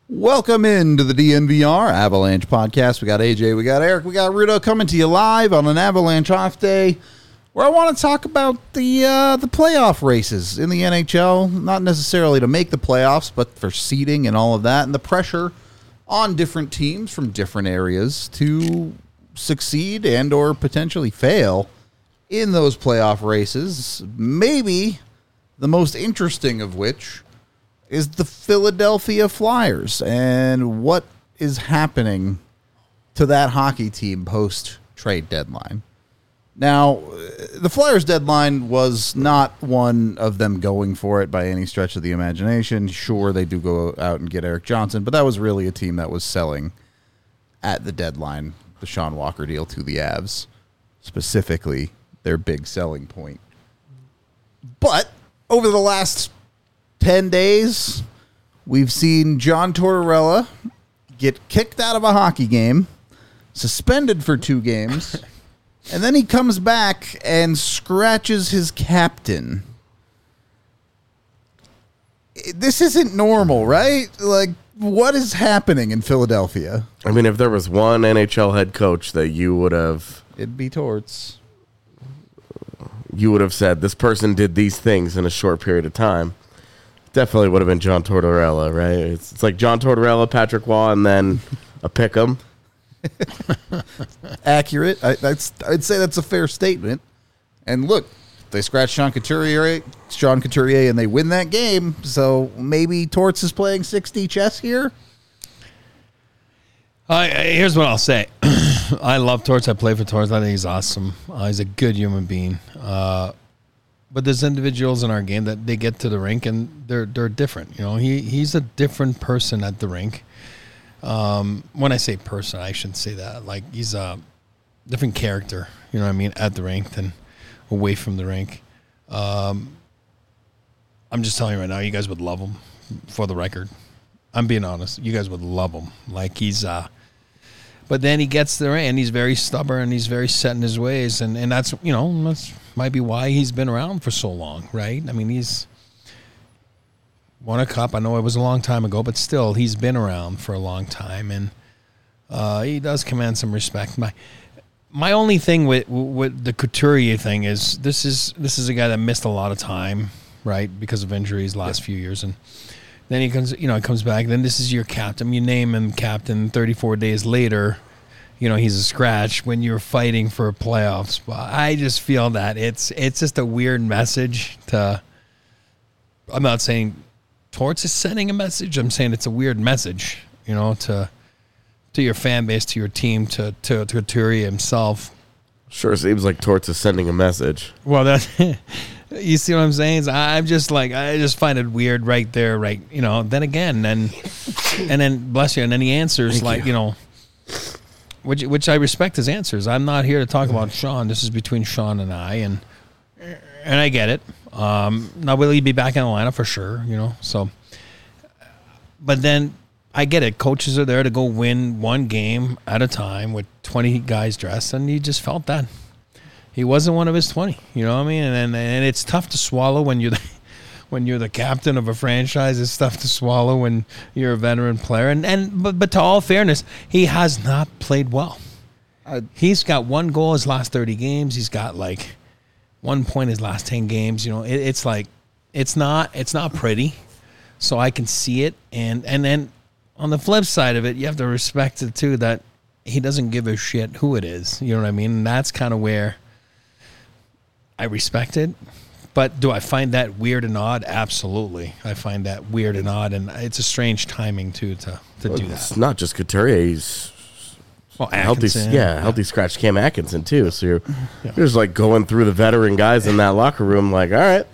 Welcome into the DNVR Avalanche podcast. We got AJ, we got Eric, we got Rudo coming to you live on an Avalanche off day, where I want to talk about the playoff races in the NHL. Not necessarily to make the playoffs, but for seeding and all of that, and the pressure on different teams from different areas to succeed and or potentially fail in those playoff races. Maybe the most interesting of which is the Philadelphia Flyers and what is happening to that hockey team post-trade deadline. Now, the Flyers deadline was not one of them going for it by any stretch of the imagination. Sure, they do go out and get Erik Johnson, but that was really a team that was selling at the deadline the Sean Walker deal to the Avs, specifically their big selling point. But over the last 10 days, we've seen John Tortorella get kicked out of a hockey game, suspended for 2 games, and then he comes back and scratches his captain. This isn't normal, right? Like, what is happening in Philadelphia? I mean, if there was one NHL head coach that you would have... It'd be Torts. You would have said, this person did these things in a short period of time. Definitely would have been John Tortorella, right? It's like John Tortorella, Patrick Waugh, and then a pick'em. Accurate. I'd say that's a fair statement. And look, they scratch Sean Couturier, and they win that game. So maybe Torts is playing 6D chess here. Here's what I'll say. I love Torts. I play for Torts. I think he's awesome. He's a good human being. But there's individuals in our game that they get to the rink and they're different. You know, he's a different person at the rink. When I say person, I shouldn't say that. Like, he's a different character, you know what I mean, at the rink than away from the rink. I'm just telling you right now, you guys would love him, for the record. I'm being honest. You guys would love him. Like, he's but then he gets there and he's very stubborn and he's very set in his ways. And that's, you know, that's might be why he's been around for so long, right? I mean, he's won a cup. I know it was a long time ago, but still, he's been around for a long time. And he does command some respect. My only thing with the Couturier thing is this is a guy that missed a lot of time, right, because of injuries last few years. And then he comes back. Then this is your captain. You name him captain. 34 days later, you know, he's a scratch when you're fighting for a playoff spot. I just feel that it's just a weird message to. I'm not saying Torts is sending a message. I'm saying it's a weird message, you know, to your fan base, to your team, to Couturier himself. Sure seems like Torts is sending a message. Well, that. You see what I'm saying? I'm just like, I just find it weird right there, right? You know, then again, and then bless you, and then he answers you know, which I respect his answers. I'm not here to talk about Sean. This is between Sean and I, and I get it. Now, will he be back in the lineup for sure? You know, so, but then I get it. Coaches are there to go win one game at a time with 20 guys dressed, and he just felt that. He wasn't one of his 20, you know what I mean? And it's tough to swallow when you're the captain of a franchise. It's tough to swallow when you're a veteran player. But to all fairness, he has not played well. He's got 1 goal his last 30 games. He's got like 1 point his last 10 games. You know, it's like it's not pretty. So I can see it. And then on the flip side of it, you have to respect it too that he doesn't give a shit who it is. You know what I mean? And that's kind of where I respect it, but do I find that weird and odd? Absolutely. I find that weird and odd, and it's a strange timing, too, to do that. It's not just Couturier. He's healthy scratch Cam Atkinson, too. So you're just like going through the veteran guys in that locker room like, all right.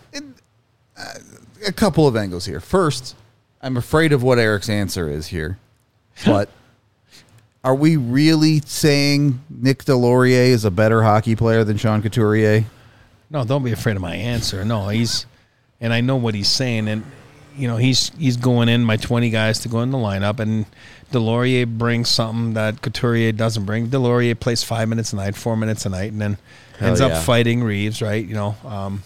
A couple of angles here. First, I'm afraid of what Eric's answer is here, but are we really saying Nick Delorier is a better hockey player than Sean Couturier? No, don't be afraid of my answer. No, and I know what he's saying, and you know he's going in my 20 guys to go in the lineup, and Delorier brings something that Couturier doesn't bring. Delorier plays 5 minutes a night, 4 minutes a night, and then ends up fighting Reeves, right? You know,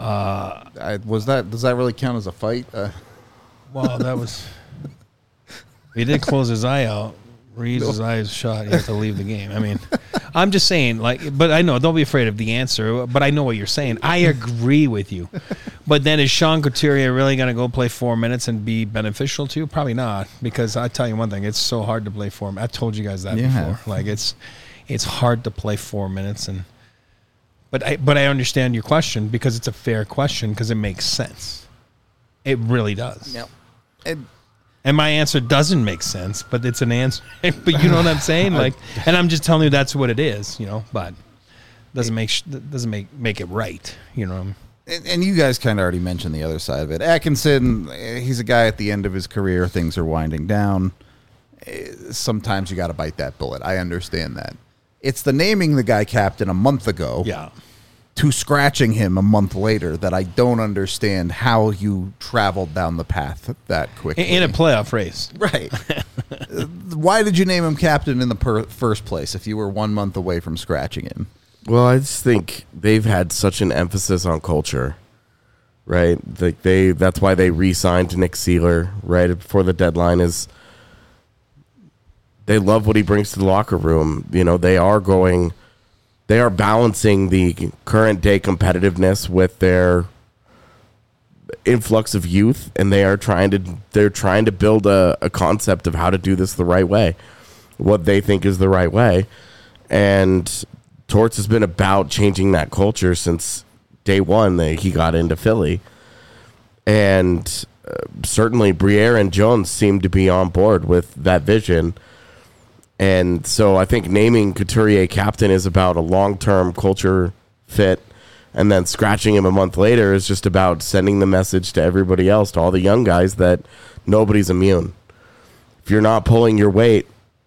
does that really count as a fight? Well, that was He did close his eye out. Reads his eyes shut. He has to leave the game. I mean, I'm just saying, like, but I know, don't be afraid of the answer, but I know what you're saying. I agree with you. But then is Sean Couturier really going to go play 4 minutes and be beneficial to you? Probably not, because I tell you one thing, it's so hard to play 4 minutes. I told you guys that before. Like, it's hard to play 4 minutes. But I understand your question, because it's a fair question, because it makes sense. It really does. Yep. And my answer doesn't make sense, but it's an answer. But you know what I'm saying? Like, and I'm just telling you that's what it is, you know. But doesn't make it right, you know. And you guys kind of already mentioned the other side of it. Atkinson, he's a guy at the end of his career. Things are winding down. Sometimes you got to bite that bullet. I understand that. It's the naming the guy captain a month ago. Yeah. To scratching him a month later that I don't understand how you traveled down the path that quickly. In a playoff race. Right. Why did you name him captain in the first place if you were 1 month away from scratching him? Well, I just think they've had such an emphasis on culture, right? Like that's why they re-signed Nick Seeler right before the deadline. Is they love what he brings to the locker room. You know, they are balancing the current day competitiveness with their influx of youth, and they're trying to build a concept of how to do this the right way, what they think is the right way. And Torts has been about changing that culture since day one that he got into Philly. And certainly Briere and Jones seem to be on board with that vision. And so I think naming Couturier captain is about a long-term culture fit, and then scratching him a month later is just about sending the message to everybody else, to all the young guys, that nobody's immune. If you're not pulling your weight,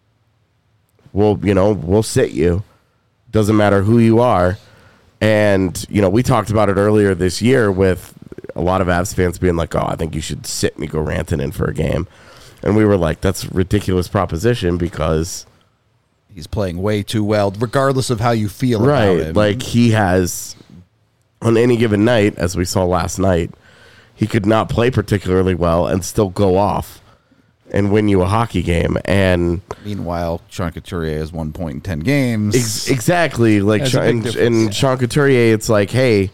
we'll sit you. Doesn't matter who you are. And, we talked about it earlier this year with a lot of Avs fans being like, oh, I think you should sit Mikko Rantanen for a game. And we were like, that's a ridiculous proposition because he's playing way too well, regardless of how you feel about him. Like he has, on any given night, as we saw last night, he could not play particularly well and still go off and win you a hockey game. And meanwhile, Sean Couturier has 1 point in 10 games. Exactly. Like Sean Couturier, it's like, hey,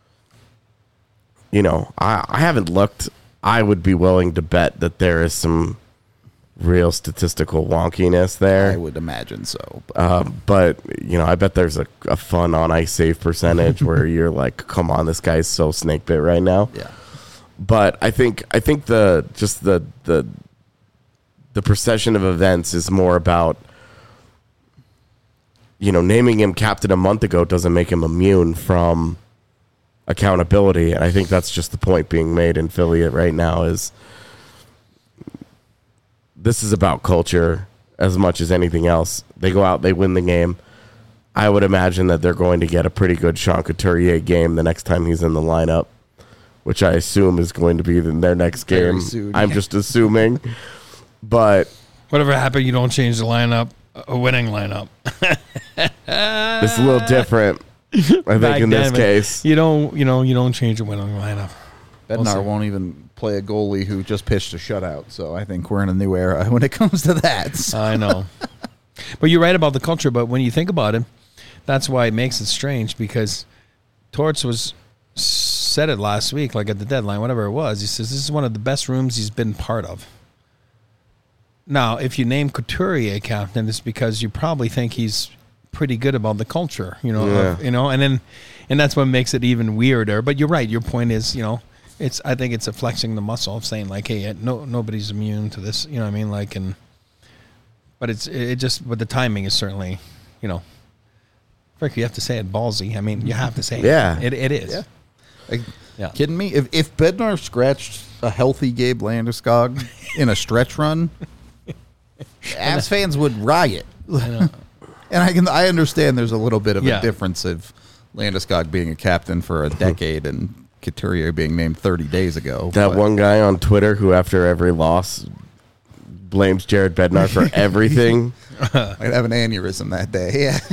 I haven't looked. I would be willing to bet that there is some real statistical wonkiness there. I would imagine so. But I bet there's a fun on ice save percentage where you're like, come on, this guy's so snake bit right now. Yeah. But I think the procession of events is more about, naming him captain a month ago doesn't make him immune from accountability. And I think that's just the point being made in Philly right now is this is about culture as much as anything else. They go out, they win the game. I would imagine that they're going to get a pretty good Sean Couturier game the next time he's in the lineup, which I assume is going to be their next game. Soon, I'm just assuming. But whatever happened, you don't change the lineup, a winning lineup. It's a little different. I think in this case, you don't change a winning lineup. Bednar won't even play a goalie who just pitched a shutout, so I think we're in a new era when it comes to that. So. I know, but you're right about the culture. But when you think about it, that's why it makes it strange, because Torts said it last week, like at the deadline, whatever it was. He says this is one of the best rooms he's been part of. Now, if you name Couturier captain, it's because you probably think he's pretty good about the culture, and that's what makes it even weirder. But you're right. Your point is, I think it's a flexing the muscle of saying like, hey, nobody's immune to this. You know what I mean? Like, but the timing is certainly, Frick, you have to say it ballsy. I mean, you have to say it. Yeah. It is. Yeah. Kidding me? If Bednar scratched a healthy Gabe Landeskog in a stretch run, Avs fans would riot. I know. And I understand there's a little bit of a difference of Landeskog being a captain for a decade and Couturier being named 30 days ago. That one guy on Twitter who after every loss blames Jared Bednar for everything. I'd have an aneurysm that day. Yeah.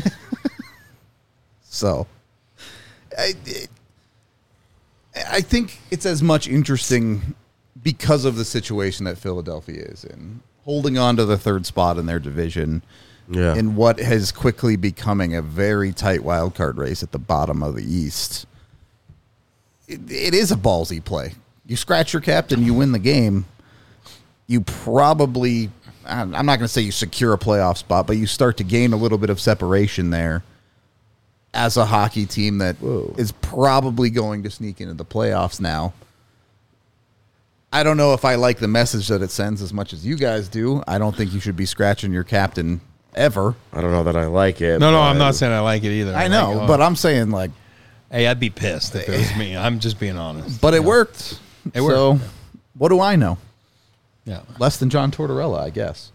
So, I think it's as much interesting because of the situation that Philadelphia is in, holding on to the third spot in their division in what has quickly becoming a very tight wild card race at the bottom of the East. It is a ballsy play. You scratch your captain, you win the game. You probably, I'm not going to say you secure a playoff spot, but you start to gain a little bit of separation there as a hockey team that is probably going to sneak into the playoffs now. I don't know if I like the message that it sends as much as you guys do. I don't think you should be scratching your captain ever. I don't know that I like it. No, I'm not saying I like it either. I know, but I'm saying, like, hey, I'd be pissed if it was me. I'm just being honest. But it worked. It worked. So, what do I know? Yeah. Less than John Tortorella, I guess.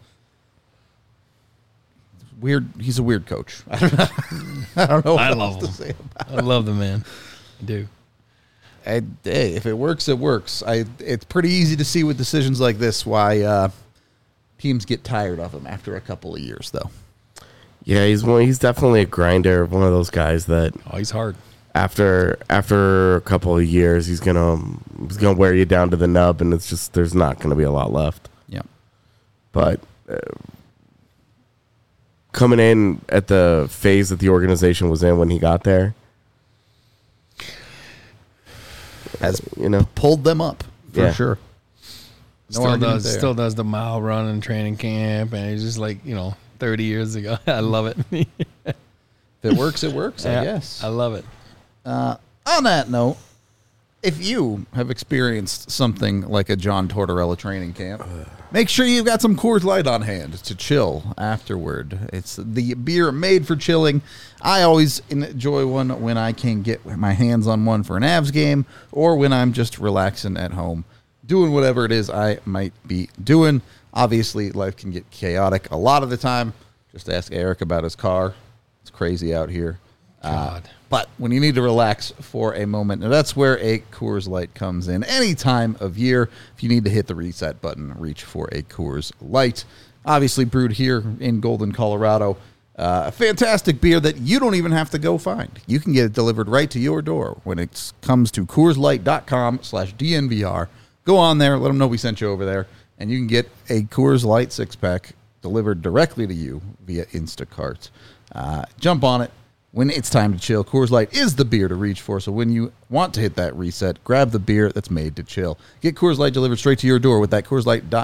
Weird. He's a weird coach. I don't know what I else love to him. say about I love the man. I do. it. Hey, if it works, it works. It's pretty easy to see with decisions like this why teams get tired of him after a couple of years, though. Yeah, he's definitely a grinder. One of those guys that He's hard. after a couple of years, he's gonna wear you down to the nub, and it's just there's not gonna be a lot left. Yeah. But coming in at the phase that the organization was in when he got there, Has pulled them up for sure. Still does the mile run in training camp, and he's just like 30 years ago. I love it. If it works, it works. I guess. I love it. On that note, if you have experienced something like a John Tortorella training camp, make sure you've got some Coors Light on hand to chill afterward. It's the beer made for chilling. I always enjoy one when I can get my hands on one for an Avs game or when I'm just relaxing at home, doing whatever it is I might be doing. Obviously, life can get chaotic a lot of the time. Just ask Eric about his car. It's crazy out here. God. But when you need to relax for a moment, now that's where a Coors Light comes in. Any time of year, if you need to hit the reset button, reach for a Coors Light. Obviously brewed here in Golden, Colorado. A fantastic beer that you don't even have to go find. You can get it delivered right to your door when it comes to CoorsLight.com/DNVR. Go on there, let them know we sent you over there, and you can get a Coors Light 6-pack delivered directly to you via Instacart. Jump on it when it's time to chill. Coors Light is the beer to reach for, so when you want to hit that reset, grab the beer that's made to chill. Get Coors Light delivered straight to your door with that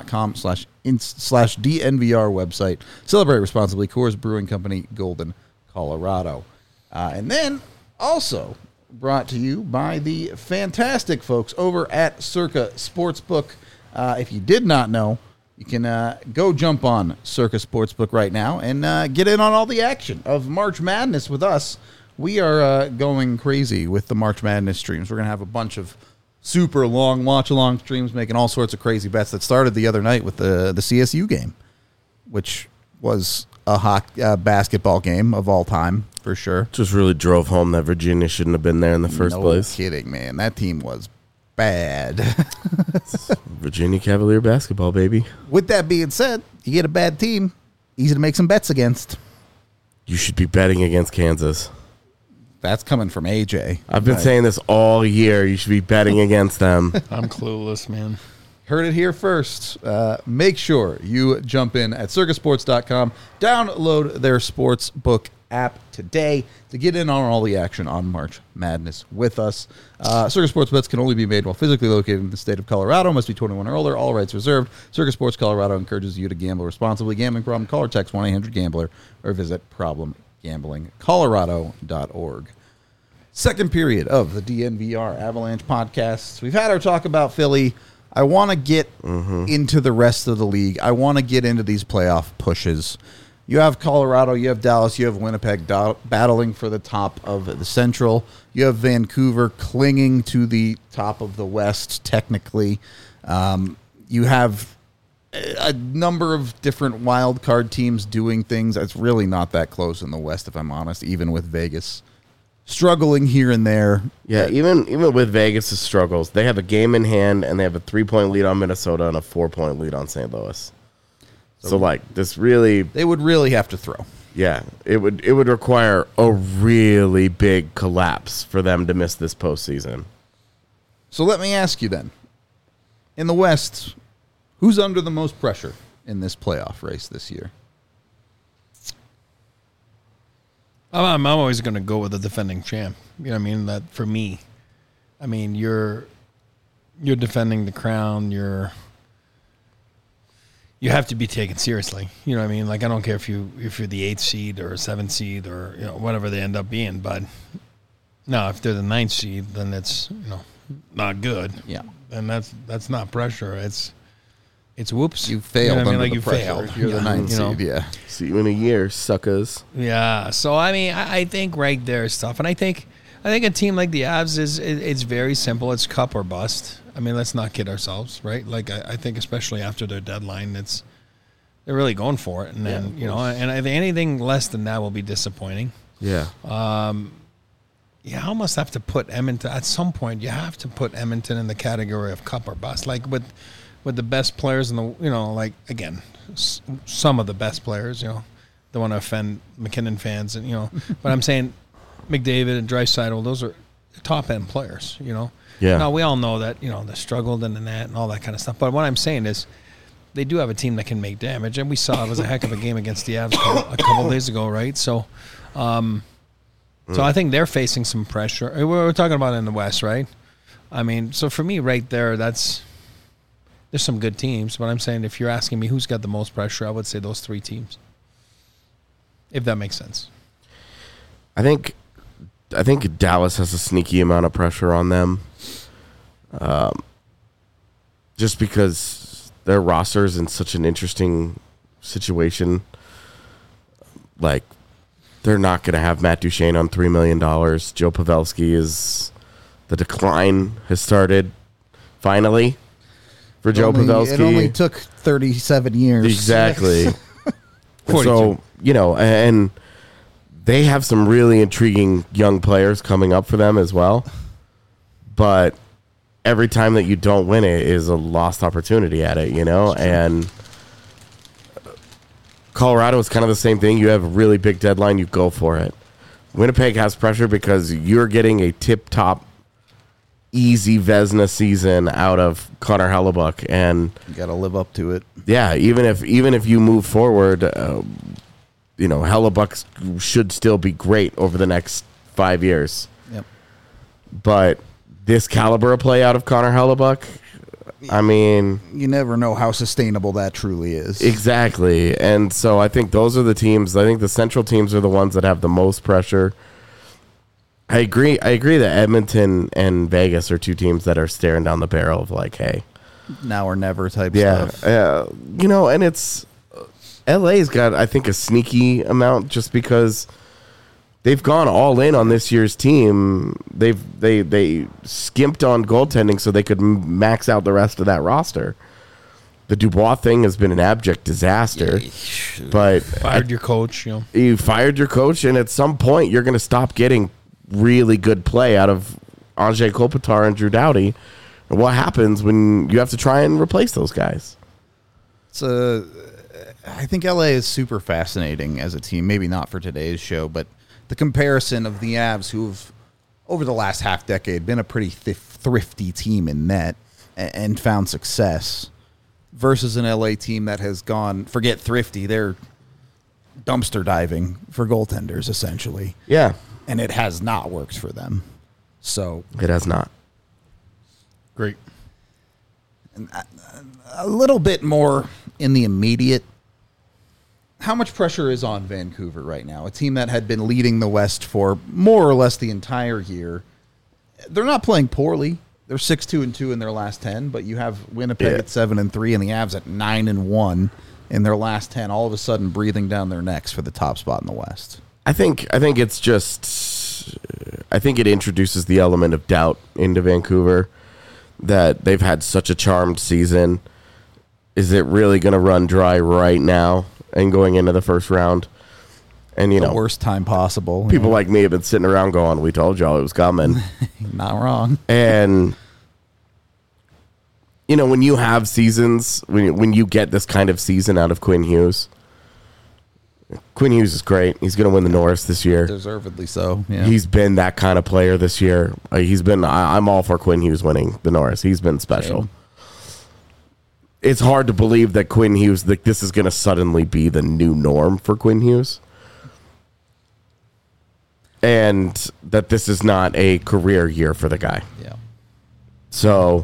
CoorsLight.com/DNVR website. Celebrate responsibly. Coors Brewing Company, Golden, Colorado. And then also brought to you by the fantastic folks over at Circa Sportsbook. If you did not know, you can go jump on Circa Sportsbook right now and get in on all the action of March Madness with us. We are going crazy with the March Madness streams. We're going to have a bunch of super long watch-along streams making all sorts of crazy bets that started the other night with the CSU game, which was a basketball game of all time, for sure. Just really drove home that Virginia shouldn't have been there in the first place. No kidding, man. That team was bad. Virginia Cavalier basketball, baby. With that being said, you get a bad team, easy to make some bets against. You should be betting against Kansas. That's coming from AJ. I've been saying this all year. You should be betting against them. I'm clueless, man. Heard it here first. Make sure you jump in at circusports.com. Download their sportsbook app today to get in on all the action on March Madness with us. Circa Sports bets can only be made while physically located in the state of Colorado. Must be 21 or older. All rights reserved. Circa Sports Colorado encourages you to gamble responsibly. Gambling problem? Call or text 1-800-GAMBLER or visit problemgamblingcolorado.org. Second period of the DNVR Avalanche podcasts. We've had our talk about Philly. I want to get into the rest of the league. I want to get into these playoff pushes. You have Colorado, you have Dallas, you have Winnipeg battling for the top of the Central. You have Vancouver clinging to the top of the West, technically. You have a number of different wild card teams doing things. It's really not that close in the West, if I'm honest, even with Vegas struggling here and there. Yeah, even with Vegas' struggles, they have a game in hand, and they have a 3-point lead on Minnesota and a 4-point lead on St. Louis. So like this really, they would really have to throw. Yeah, it would require a really big collapse for them to miss this postseason. So let me ask you then, In the West, who's under the most pressure in this playoff race this year? I'm always going to go with the defending champ. You know what I mean? That for me, I mean, you're defending the crown. You have to be taken seriously. You know what I mean? Like, I don't care if you're the 8th seed or 7th seed or, you know, whatever they end up being. But no, if they're the 9th seed, then it's, you know, not good. Yeah. And that's not pressure. It's whoops. You failed. You know what I mean? Like, the you pressure. failed. You're the 9th you know? seed. Yeah. See you in a year, suckers. Yeah. So I mean, I think right there is tough, and I think a team like the Avs it's very simple. It's cup or bust. I mean, let's not kid ourselves, right? Like I think especially after their deadline, they're really going for it, and then you know, and I think anything less than that will be disappointing. Yeah. You almost have to put Edmonton at some point. You have to put Edmonton in the category of cup or bust, like with the best players in the, you know, like again, some of the best players. You know, don't want to offend McKinnon fans, and you know, but I'm saying McDavid and Draisaitl, those are top end players. You know. Yeah. Now we all know that, you know, they struggled in the net and all that kind of stuff. But what I'm saying is, they do have a team that can make damage, and we saw it was a heck of a game against the Avs a couple days ago, right? So, so I think they're facing some pressure. We're talking about in the West, right? I mean, so for me, right there, there's some good teams. But I'm saying, if you're asking me who's got the most pressure, I would say those 3 teams, if that makes sense. I think Dallas has a sneaky amount of pressure on them, just because their roster is in such an interesting situation. Like, they're not going to have Matt Duchene on $3 million. Joe Pavelski the decline has started finally for Joe Pavelski. It only took 37 years. Exactly. 42. So, you know, and they have some really intriguing young players coming up for them as well. But every time that you don't win it is a lost opportunity at it, you know? And Colorado is kind of the same thing. You have a really big deadline, you go for it. Winnipeg has pressure because you're getting a tip-top, easy Vezina season out of Connor Hellebuyck. And You got to live up to it. yeah, even if you move forward, you know, Hellebuyck should still be great over the next 5 years. Yep. But this caliber of play out of Connor Hellebuyck, I mean, You never know how sustainable that truly is. exactly. And so I think those are the teams. I think the Central teams are the ones that have the most pressure. I agree that Edmonton and Vegas are 2 teams that are staring down the barrel of like, hey, Now or never type yeah, stuff. you know, and it's LA's got, I think, a sneaky amount just because they've gone all in on this year's team. They skimped on goaltending so they could max out the rest of that roster. The Dubois thing has been an abject disaster. But Fired your coach, you know. you fired your coach, and at some point you're going to stop getting really good play out of Anze Kopitar and Drew Doughty. And what happens when you have to try and replace those guys? I think LA is super fascinating as a team. Maybe not for today's show, but the comparison of the Avs, who've over the last half decade been a pretty thrifty team in net and found success, versus an LA team that has gone, forget thrifty, they're dumpster diving for goaltenders essentially, Yeah, and it has not worked for them. So it has not. Great. a little bit more in the immediate. How much pressure is on Vancouver right now? A team that had been leading the West for more or less the entire year. They're not playing poorly. They're 6-2-2 in their last 10, but you have Winnipeg at 7-3 and the Avs at 9-1 in their last 10, all of a sudden breathing down their necks for the top spot in the West. I think it's just, I think it introduces the element of doubt into Vancouver that they've had such a charmed season. Is it really going to run dry right now and going into the first round? And, you The know, worst time possible. people like me have been sitting around going, we told y'all it was coming. Not wrong. And, you know, when you have seasons, when you get this kind of season out of Quinn Hughes is great. He's going to win the Norris this year. Deservedly so. Yeah. He's been that kind of player this year. I'm all for Quinn Hughes winning the Norris. He's been special. it's hard to believe that Quinn Hughes, like, this is going to suddenly be the new norm for Quinn Hughes. And that this is not a career year for the guy. Yeah. So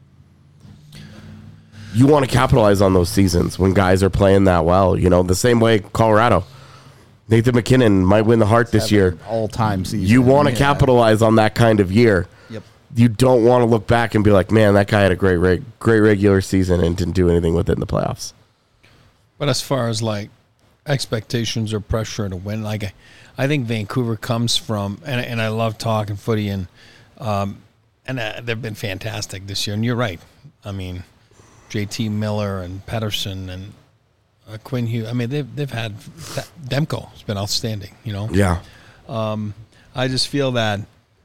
you want to capitalize on those seasons when guys are playing that well. You know, the same way Colorado. Nathan McKinnon might win the Hart this year. All-time season. You want to capitalize on that kind of year. Yep. You don't want to look back and be like, man, that guy had a great regular season and didn't do anything with it in the playoffs. But as far as like expectations or pressure to win, like I think Vancouver comes from, and I love talking footy, and they've been fantastic this year. And you're right. I mean, JT Miller and Pedersen and Quinn Hughes. I mean, they've had Demko has been outstanding. You know. Yeah. I just feel that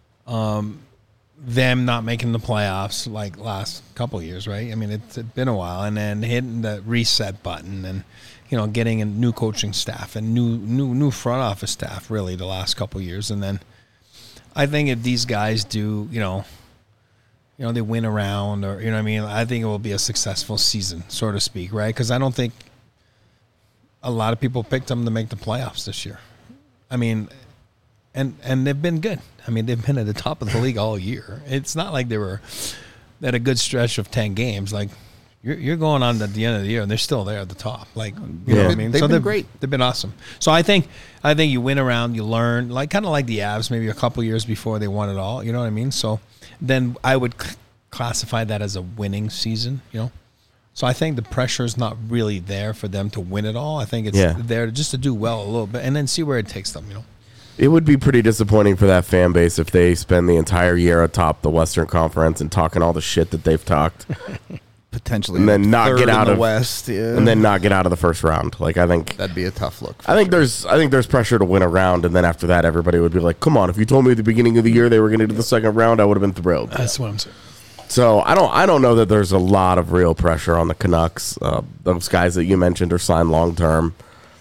them not making the playoffs like last couple of years, right? I mean, it's been a while, and then hitting the reset button, and getting a new coaching staff and new front office staff really the last couple of years, and then I think if these guys do, they win around, or what I mean, I think it will be a successful season, so to speak, right? Because I don't think a lot of people picked them to make the playoffs this year. I mean. And they've been good. I mean, they've been at the top of the league all year. It's not like they had a good stretch of 10 games. Like you're going on at the end of the year, and they're still there at the top. Like you know what I mean? They've been great. They've been awesome. So I think you win around, you learn, like kind of like the Avs, maybe a couple years before they won it all. You know what I mean? So then I would classify that as a winning season. So I think the pressure is not really there for them to win it all. I think it's there just to do well a little bit, and then see where it takes them. It would be pretty disappointing for that fan base if they spend the entire year atop the Western Conference and talking all the shit that they've talked, potentially, and then not get out of the West, and then not get out of the first round. Like I think that'd be a tough look. I think there's pressure to win a round, and then after that, everybody would be like, "Come on! If you told me at the beginning of the year they were going to do the second round, I would have been thrilled." That's what I'm saying. So I don't know that there's a lot of real pressure on the Canucks. Those guys that you mentioned are signed long term.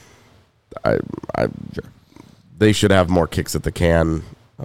Sure. They should have more kicks at the can.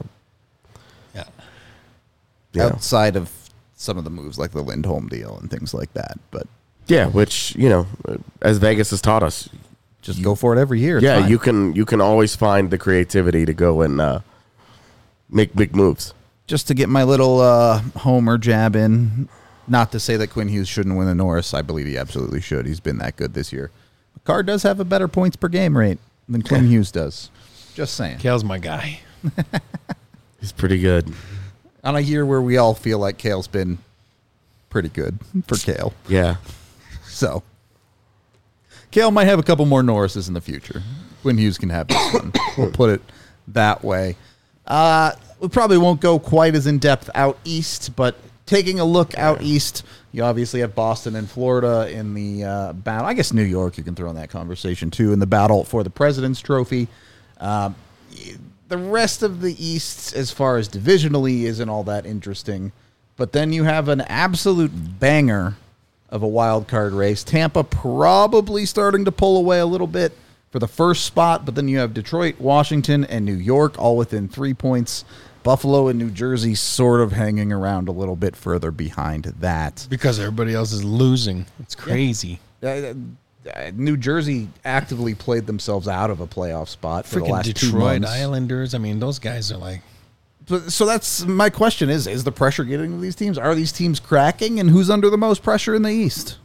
Yeah. Outside of some of the moves like the Lindholm deal and things like that. But yeah, which, as Vegas has taught us, just go for it every year. Yeah, you can always find the creativity to go and make big moves. Just to get my little homer jab in, not to say that Quinn Hughes shouldn't win the Norris. I believe he absolutely should. He's been that good this year. Carr does have a better points per game rate than Quinn Hughes does. Just saying. Kale's my guy. He's pretty good. On a year where we all feel like Kale's been pretty good for Kale. Yeah. So, Kale might have a couple more Norrises in the future. Quinn Hughes can have this one. We'll put it that way. We probably won't go quite as in-depth out east, but taking a look out east, you obviously have Boston and Florida in the battle. I guess New York you can throw in that conversation, too, in the battle for the President's Trophy. The rest of the East, as far as divisionally, isn't all that interesting. But then you have an absolute banger of a wild card race. Tampa probably starting to pull away a little bit for the first spot, but then you have Detroit, Washington, and New York all within 3 points. Buffalo and New Jersey sort of hanging around a little bit further behind that. Because everybody else is losing. It's crazy. New Jersey actively played themselves out of a playoff spot for the last Detroit 2 months. Islanders, I mean, those guys are like... So that's my question is the pressure getting to these teams? Are these teams cracking, and who's under the most pressure in the East?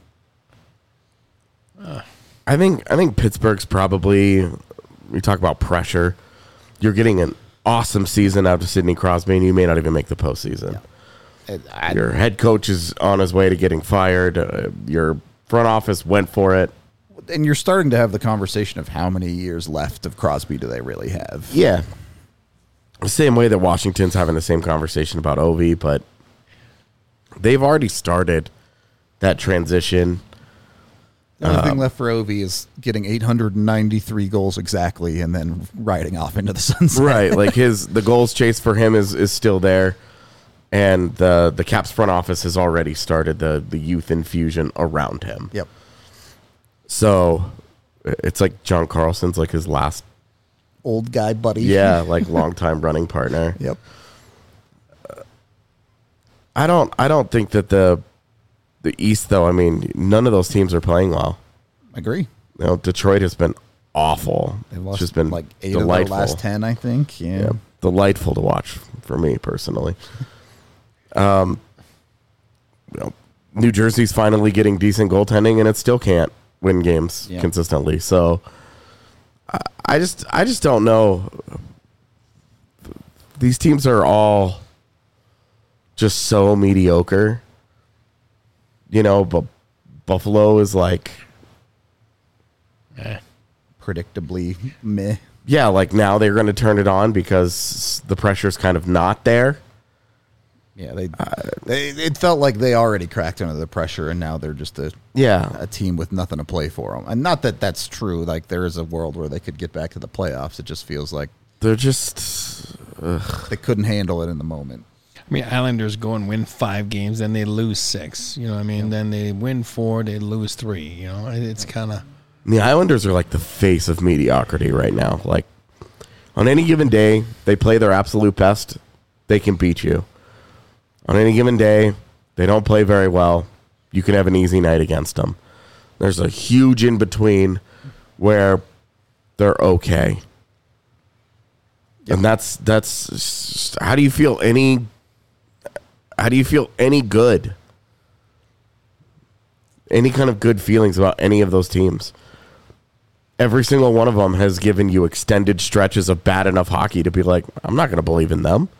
I think Pittsburgh's probably, we talk about pressure, you're getting an awesome season out of Sidney Crosby, and you may not even make the postseason. Yeah. Your head coach is on his way to getting fired. Your front office went for it. And you're starting to have the conversation of how many years left of Crosby do they really have? Yeah. The same way that Washington's having the same conversation about Ovi, but they've already started that transition. The only thing left for Ovi is getting 893 goals exactly and then riding off into the sunset. Right. Like the goals chase for him is still there. And the Caps front office has already started the youth infusion around him. Yep. So it's like John Carlson's like his last old guy buddy. Yeah, like longtime running partner. Yep. I don't think that the the East, though, I mean, none of those teams are playing well. I agree. You know, Detroit has been awful. They It's lost just been like 8 delightful. of their last 10, I think. Yeah. Yeah, delightful to watch for me personally. You know, New Jersey's finally getting decent goaltending, and it still can't win games Yeah. consistently. So I just don't know. These teams are all just so mediocre. You know, but Buffalo is like, Predictably meh. yeah, like now they're going to turn it on because the pressure's kind of not there. Yeah, it felt like they already cracked under the pressure, and now they're just a team with nothing to play for them. And not that that's true. Like, there is a world where they could get back to the playoffs. It just feels like They're just they couldn't handle it in the moment. I mean, Islanders go and win 5 games, then they lose 6. You know what I mean? Then they win 4, they lose 3. You know, it's kind of... the Islanders are like the face of mediocrity right now. Like, on any given day, they play their absolute best, they can beat you. On any given day, they don't play very well, you can have an easy night against them. There's a huge in between where they're okay. And that's how do you feel any good? Any kind of good feelings about any of those teams? Every single one of them has given you extended stretches of bad enough hockey to be like, I'm not going to believe in them.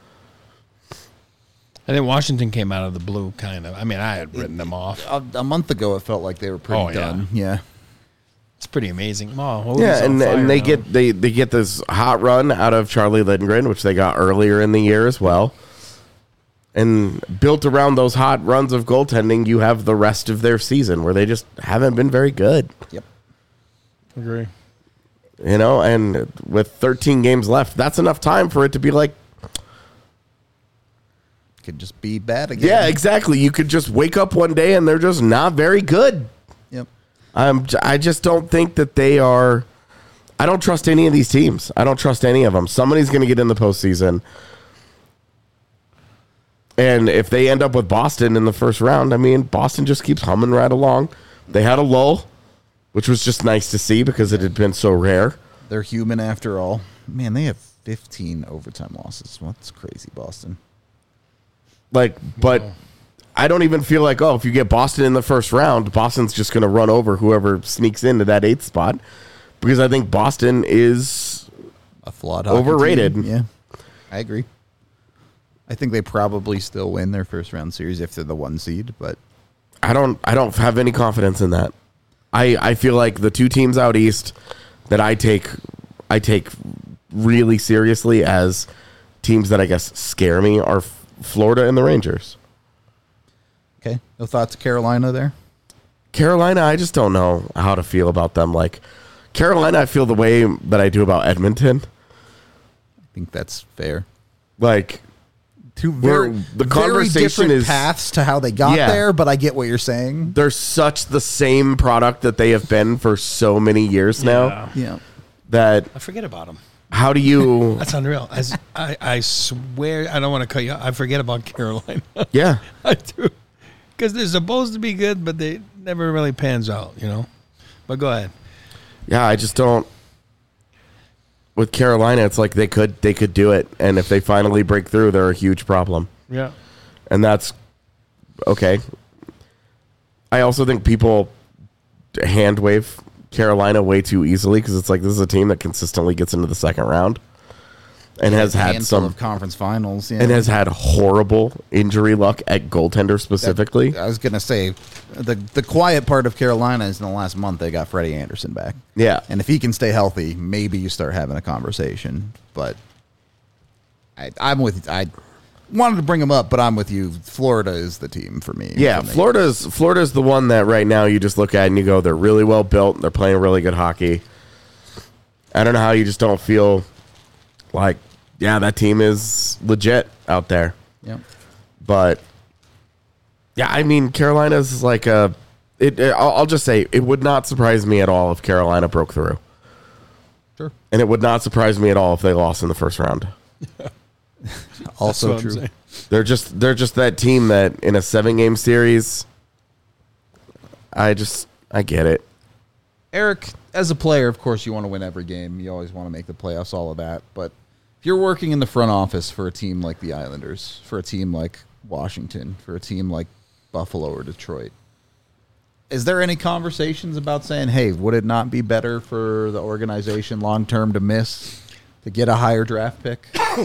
I think Washington came out of the blue, kind of. I mean, I had written them off. A month ago, it felt like they were pretty done. Yeah. It's pretty amazing. Oh, Yeah, and they get they get this hot run out of Charlie Lindgren, which they got earlier in the year as well. And built around those hot runs of goaltending, you have the rest of their season where they just haven't been very good. Yep. Agree. You know, and with 13 games left, that's enough time for it to be like, Could just be bad again. yeah, exactly. You could just wake up one day and they're just not very good. Yep. I just don't think that they are. I don't trust any of these teams. I don't trust any of them. Somebody's going to get in the postseason. And if they end up with Boston in the first round, I mean, Boston just keeps humming right along. They had a lull, which was just nice to see because it had been so rare. They're human after all. Man, they have 15 overtime losses. Well, that's crazy, Boston. Like, but I don't even feel like, if you get Boston in the first round, Boston's just going to run over whoever sneaks into that 8th spot. Because I think Boston is a flawed hockey overrated. team. Yeah, I agree. I think they probably still win their first round series if they're the 1 seed, but I don't have any confidence in that. I feel like the 2 teams out east that I take really seriously as teams that I guess scare me are Florida and the Rangers. okay. No thoughts, Carolina there? Carolina, I just don't know how to feel about them. Like, Carolina, I feel the way that I do about Edmonton. I think that's fair. Like, Two Where very, the very conversation different is- paths to how they got Yeah. there, but I get what you're saying. they're such the same product that they have been for so many years now Yeah. that I forget about them. how do you... That's unreal. I swear, I don't want to cut you off. I forget about Carolina. Yeah. I do. Because they're supposed to be good, but they never really pans out, you know? But go ahead. Yeah, I just don't... With Carolina, it's like they could do it, and if they finally break through, they're a huge problem. Yeah. And that's okay. I also think people hand wave Carolina way too easily because it's like this is a team that consistently gets into the second round and has had Handful some of conference finals. Yeah. and has had horrible injury luck at goaltender specifically. I was gonna say the quiet part of Carolina is in the last month they got Freddie Anderson back. Yeah. And if he can stay healthy, maybe you start having a conversation. But I'm with you. I wanted to bring him up, but I'm with you. Florida is the team for me. Yeah, Florida's the one that right now you just look at and you go, they're really well built. They're playing really good hockey. I don't know how you just don't feel like, yeah, that team is legit out there. Yeah. But yeah, I mean, Carolina's like I'll just say it would not surprise me at all if Carolina broke through. Sure. And it would not surprise me at all if they lost in the first round. Also That's what I'm true. saying. They're just that team that in a 7-game series I get it. Eric, as a player, of course, you want to win every game. You always want to make the playoffs, all of that. But if you're working in the front office for a team like the Islanders, for a team like Washington, for a team like Buffalo or Detroit, is there any conversations about saying, hey, would it not be better for the organization long-term to get a higher draft pick?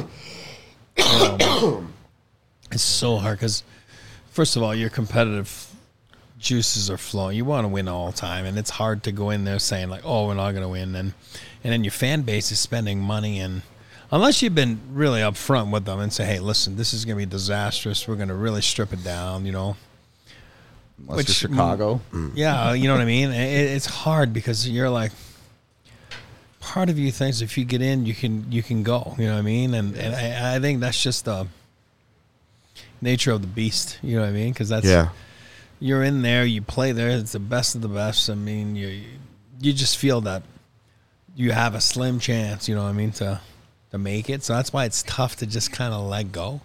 It's so hard because, first of all, your competitive juices are flowing. You want to win all the time, and it's hard to go in there saying, like, oh, we're not going to win. And then your fan base is spending money, and unless you've been really upfront with them and say, hey, listen, this is going to be disastrous. We're going to really strip it down, Unless you're Chicago. Yeah, you know what I mean? It's hard because you're like, part of you thinks if you get in, you can go. You know what I mean? And I think that's just the nature of the beast. You know what I mean? Because you're in there, you play there. It's the best of the best. I mean, you just feel that you have a slim chance. You know what I mean, to make it. So that's why it's tough to just kind of let go.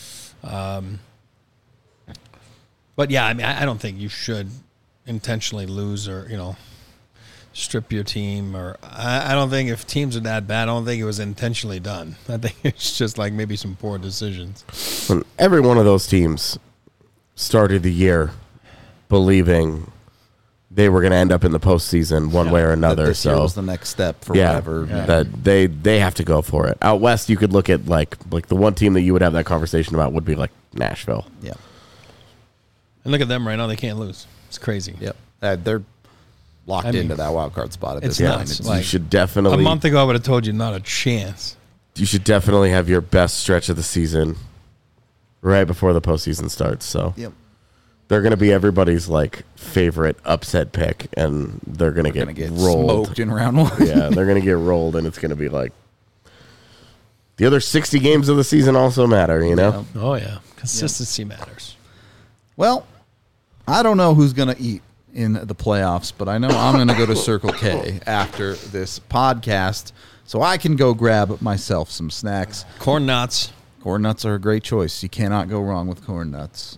But yeah, I mean, I don't think you should intentionally lose or strip your team. Or I don't think if teams are that bad, I don't think it was intentionally done. I think it's just like maybe some poor decisions. And every one of those teams started the year believing they were going to end up in the postseason one way or another. This year was the next step for whatever. Yeah. That they have to go for it. Out west, you could look at like the one team that you would have that conversation about would be like Nashville. Yeah. And look at them right now; they can't lose. It's crazy. Yep, they're locked into that wild card spot at this it's point. nuts. Like, you should definitely. A month ago, I would have told you not a chance. You should definitely have your best stretch of the season right before the postseason starts. So they're going to be everybody's like favorite upset pick, and they're going to get rolled smoked in round one. Yeah, they're going to get rolled, and it's going to be like the other 60 games of the season also matter. Yeah. Oh yeah, consistency matters. Well, I don't know who's going to eat in the playoffs, but I know I'm going to go to Circle K after this podcast so I can go grab myself some snacks. Corn nuts. Corn nuts are a great choice. You cannot go wrong with corn nuts.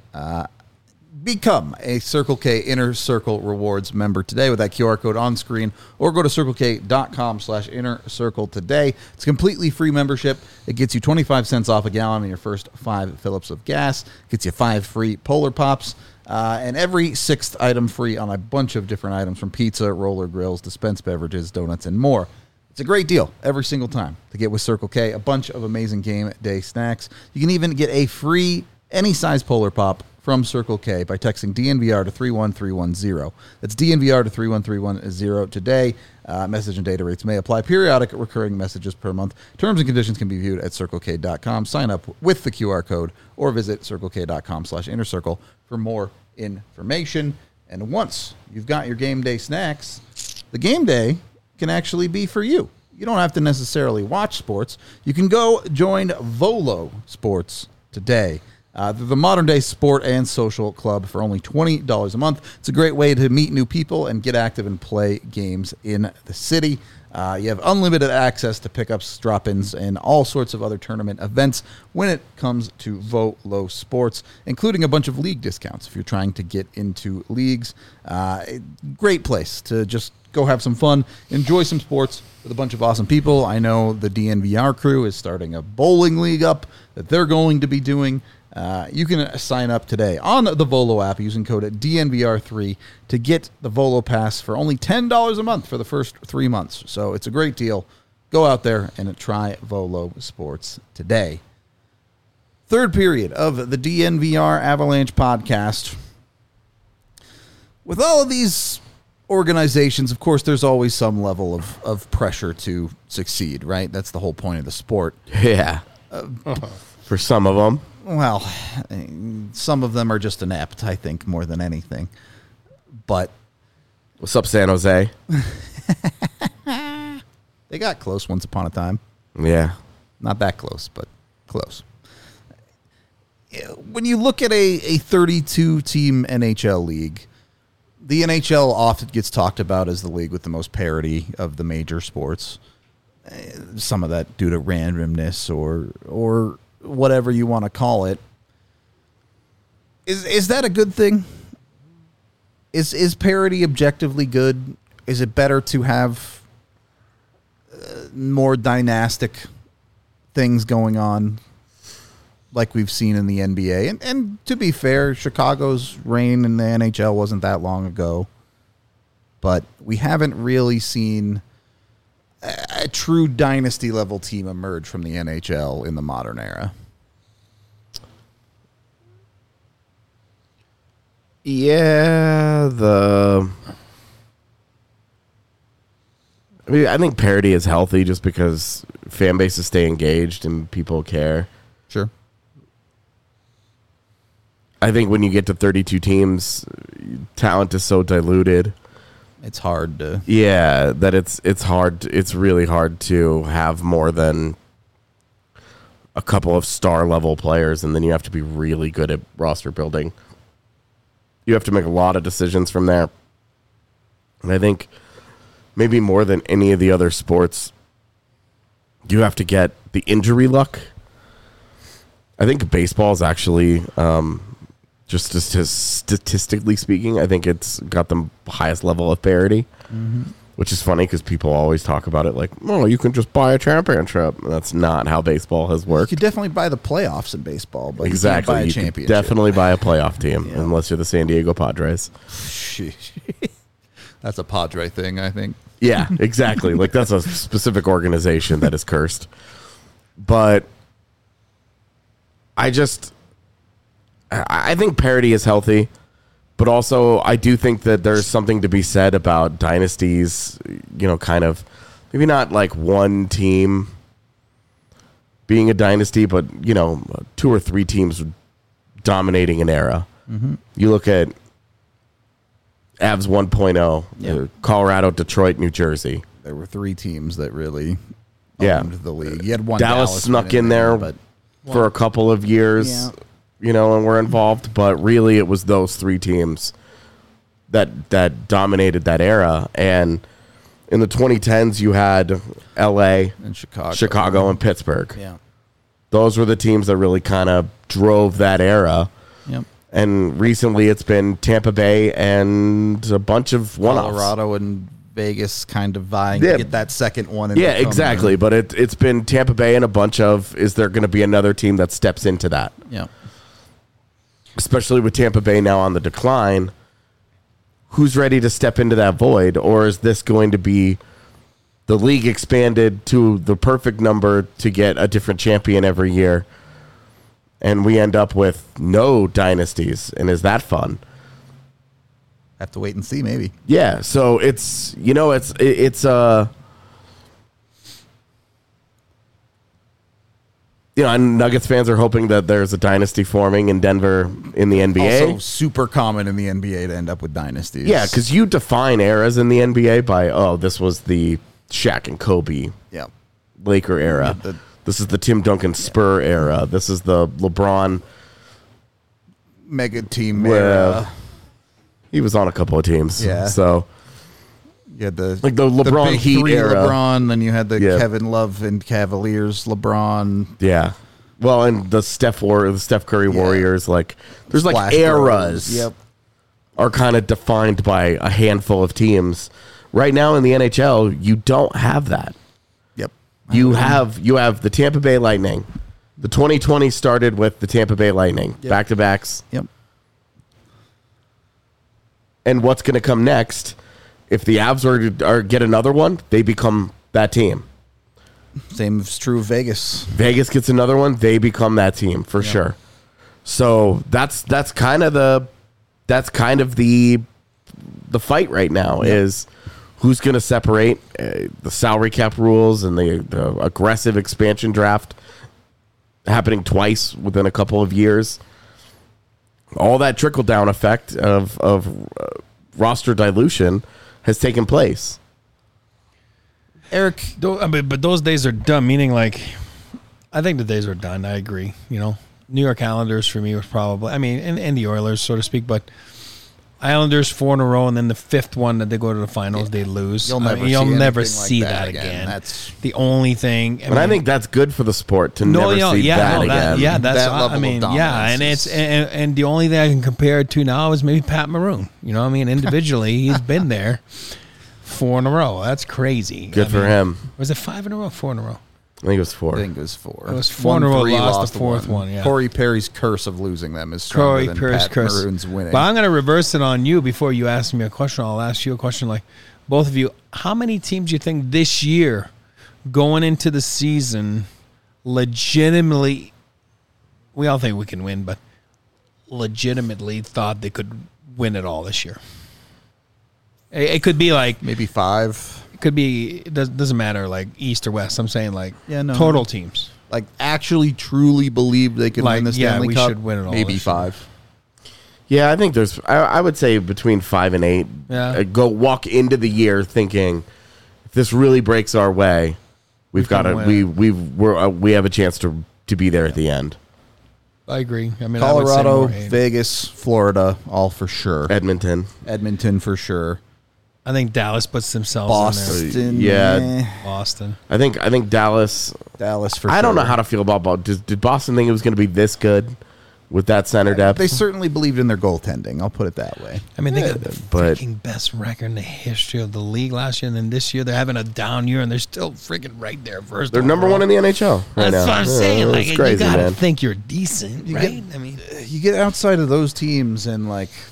Become a Circle K Inner Circle Rewards member today with that QR code on screen, or go to circlek.com/innercircle today. It's a completely free membership. It gets you 25 cents off a gallon on your first 5 fill-ups of gas. It gets you 5 free Polar Pops, and every 6th item free on a bunch of different items, from pizza, roller grills, dispensed beverages, donuts, and more. It's a great deal every single time to get with Circle K. A bunch of amazing game day snacks. You can even get a free any size Polar Pop from Circle K by texting DNVR to 31310. That's DNVR to 31310 today. Message and data rates may apply. Periodic recurring messages per month. Terms and conditions can be viewed at circlek.com. Sign up with the QR code or visit circlek.com/innercircle for more information. And once you've got your game day snacks, the game day can actually be for you. You don't have to necessarily watch sports. You can go join Volo Sports today. They're the modern-day sport and social club for only $20 a month. It's a great way to meet new people and get active and play games in the city. You have unlimited access to pickups, drop-ins, and all sorts of other tournament events when it comes to Volo Sports, including a bunch of league discounts if you're trying to get into leagues. Great place to just go have some fun, enjoy some sports with a bunch of awesome people. I know the DNVR crew is starting a bowling league up that they're going to be doing. You can sign up today on the Volo app using code DNVR3 to get the Volo Pass for only $10 a month for the first 3 months. So it's a great deal. Go out there and try Volo Sports today. Third period of the DNVR Avalanche podcast. With all of these organizations, of course, there's always some level of pressure to succeed, right? That's the whole point of the sport. Yeah. For some of them. Well, some of them are just inept, I think, more than anything. But what's up, San Jose? They got close once upon a time. Yeah. Not that close, but close. When you look at a 32-team NHL league, the NHL often gets talked about as the league with the most parity of the major sports. Some of that due to randomness or whatever you want to call it. Is that a good thing? Is parity objectively good? Is it better to have more dynastic things going on like we've seen in the NBA? And to be fair, Chicago's reign in the NHL wasn't that long ago. But we haven't really seen a true dynasty level team emerge from the NHL in the modern era. Yeah, I think parity is healthy just because fan bases stay engaged and people care. Sure. I think when you get to 32 teams, talent is so diluted. It's hard to... Yeah, that it's hard. It's really hard to have more than a couple of star level players, and then you have to be really good at roster building. You have to make a lot of decisions from there. And I think maybe more than any of the other sports, you have to get the injury luck. I think baseball is actually, just statistically speaking, I think it's got the highest level of parity, which is funny because people always talk about it like, oh, you can just buy a championship. That's not how baseball has worked. You could definitely buy the playoffs in baseball, but Exactly. you can't buy a You championship. could definitely buy a playoff team Yeah. unless you're the San Diego Padres. Sheesh. That's a Padre thing, I think. Yeah, exactly. Like that's a specific organization that is cursed. But I think parity is healthy, but also I do think that there's something to be said about dynasties, kind of maybe not like one team being a dynasty, but, 2 or 3 teams dominating an era. You look at Avs 1.0, Yeah. Colorado, Detroit, New Jersey. There were 3 teams that really Yeah. owned the league. You had one Dallas snuck win in there but for a couple of years, and were involved, but really it was those 3 teams that dominated that era. And in the 2010s, you had LA, in Chicago, and Pittsburgh. Yeah. Those were the teams that really kind of drove that era. Yep. And recently it's been Tampa Bay and a bunch of one-offs. Colorado and Vegas kind of vying Yeah. to get that second one. And Yeah, become exactly. the- But it's been Tampa Bay and a bunch of, is there going to be another team that steps into that? Yeah. Especially with Tampa Bay now on the decline. Who's ready to step into that void? Or is this going to be the league expanded to the perfect number to get a different champion every year? And we end up with no dynasties. And is that fun? Have to wait and see, maybe. Yeah, so it's and Nuggets fans are hoping that there's a dynasty forming in Denver in the NBA. Also super common in the NBA to end up with dynasties. Yeah, because you define eras in the NBA by, this was the Shaq and Kobe Yeah. Laker era. Yeah, This is the Tim Duncan Spur era. This is the LeBron. Mega team Yeah. era. He was on a couple of teams. Yeah. So You had the Like the LeBron big Heat 3 era. LeBron, then you had the Yeah. Kevin Love and Cavaliers LeBron. yeah. Well, and the Steph Curry Warriors, like there's like Splash eras. Bros. Yep. Are kind of defined by a handful of teams. Right now in the NHL, you don't have that. Yep. You have the Tampa Bay Lightning. The 2020 started with the Tampa Bay Lightning, Yep. back-to-backs. Yep. And what's going to come next? If the Avs are get another one, they become that team. Same is true of Vegas. Vegas gets another one, they become that team for sure. So that's kind of the fight right now is who's going to separate the salary cap rules and the aggressive expansion draft happening twice within a couple of years. All that trickle down effect of roster dilution has taken place. Eric, But those days are done. Meaning, like, I think the days are done. I agree. New York Islanders for me was probably, and the Oilers, so to speak. But Islanders 4 in a row, and then the fifth one that they go to the finals, they lose. You'll never see that like again. That's the only thing. I think that's good for the sport to never see that again. That's that level of dominance and the only thing I can compare it to now is maybe Pat Maroon. You know what I mean? Individually, he's been there 4 in a row. That's crazy. Good for him. Was it 5 in a row? 4 in a row? I think it was 4. I think it was 4. It was 4 in a row. Lost the fourth one. Yeah. Corey Perry's curse of losing them is stronger than Pat Maroon's winning. But I'm going to reverse it on you before you ask me a question. I'll ask you a question like both of you. How many teams do you think this year going into the season legitimately, we all think we can win, but legitimately thought they could win it all this year? It could be like maybe 5. It could be, it doesn't matter, like East or West. I'm saying like total teams. Like actually truly believe they could win the Stanley Cup. Should win it all. Maybe 5. Yeah, I think there's. I would say between 5 and 8. Yeah. Go walk into the year thinking, if this really breaks our way, we've got to. We have a chance to be there at the end. I agree. I mean, Colorado, I would say more 8. Vegas, Florida, all for sure. Edmonton for sure. I think Dallas puts themselves in there. Boston, yeah. Boston. I think Dallas. Dallas for sure. I don't know how to feel about Boston. Did Boston think it was going to be this good with that center depth? They certainly believed in their goaltending. I'll put it that way. I mean, they got the freaking best record in the history of the league last year, and then this year they're having a down year, and they're still freaking right there first. They're number 1 in the NHL right now. That's what I'm saying. Like, it's crazy, you gotta man. think you're decent, right? I mean, you get outside of those teams and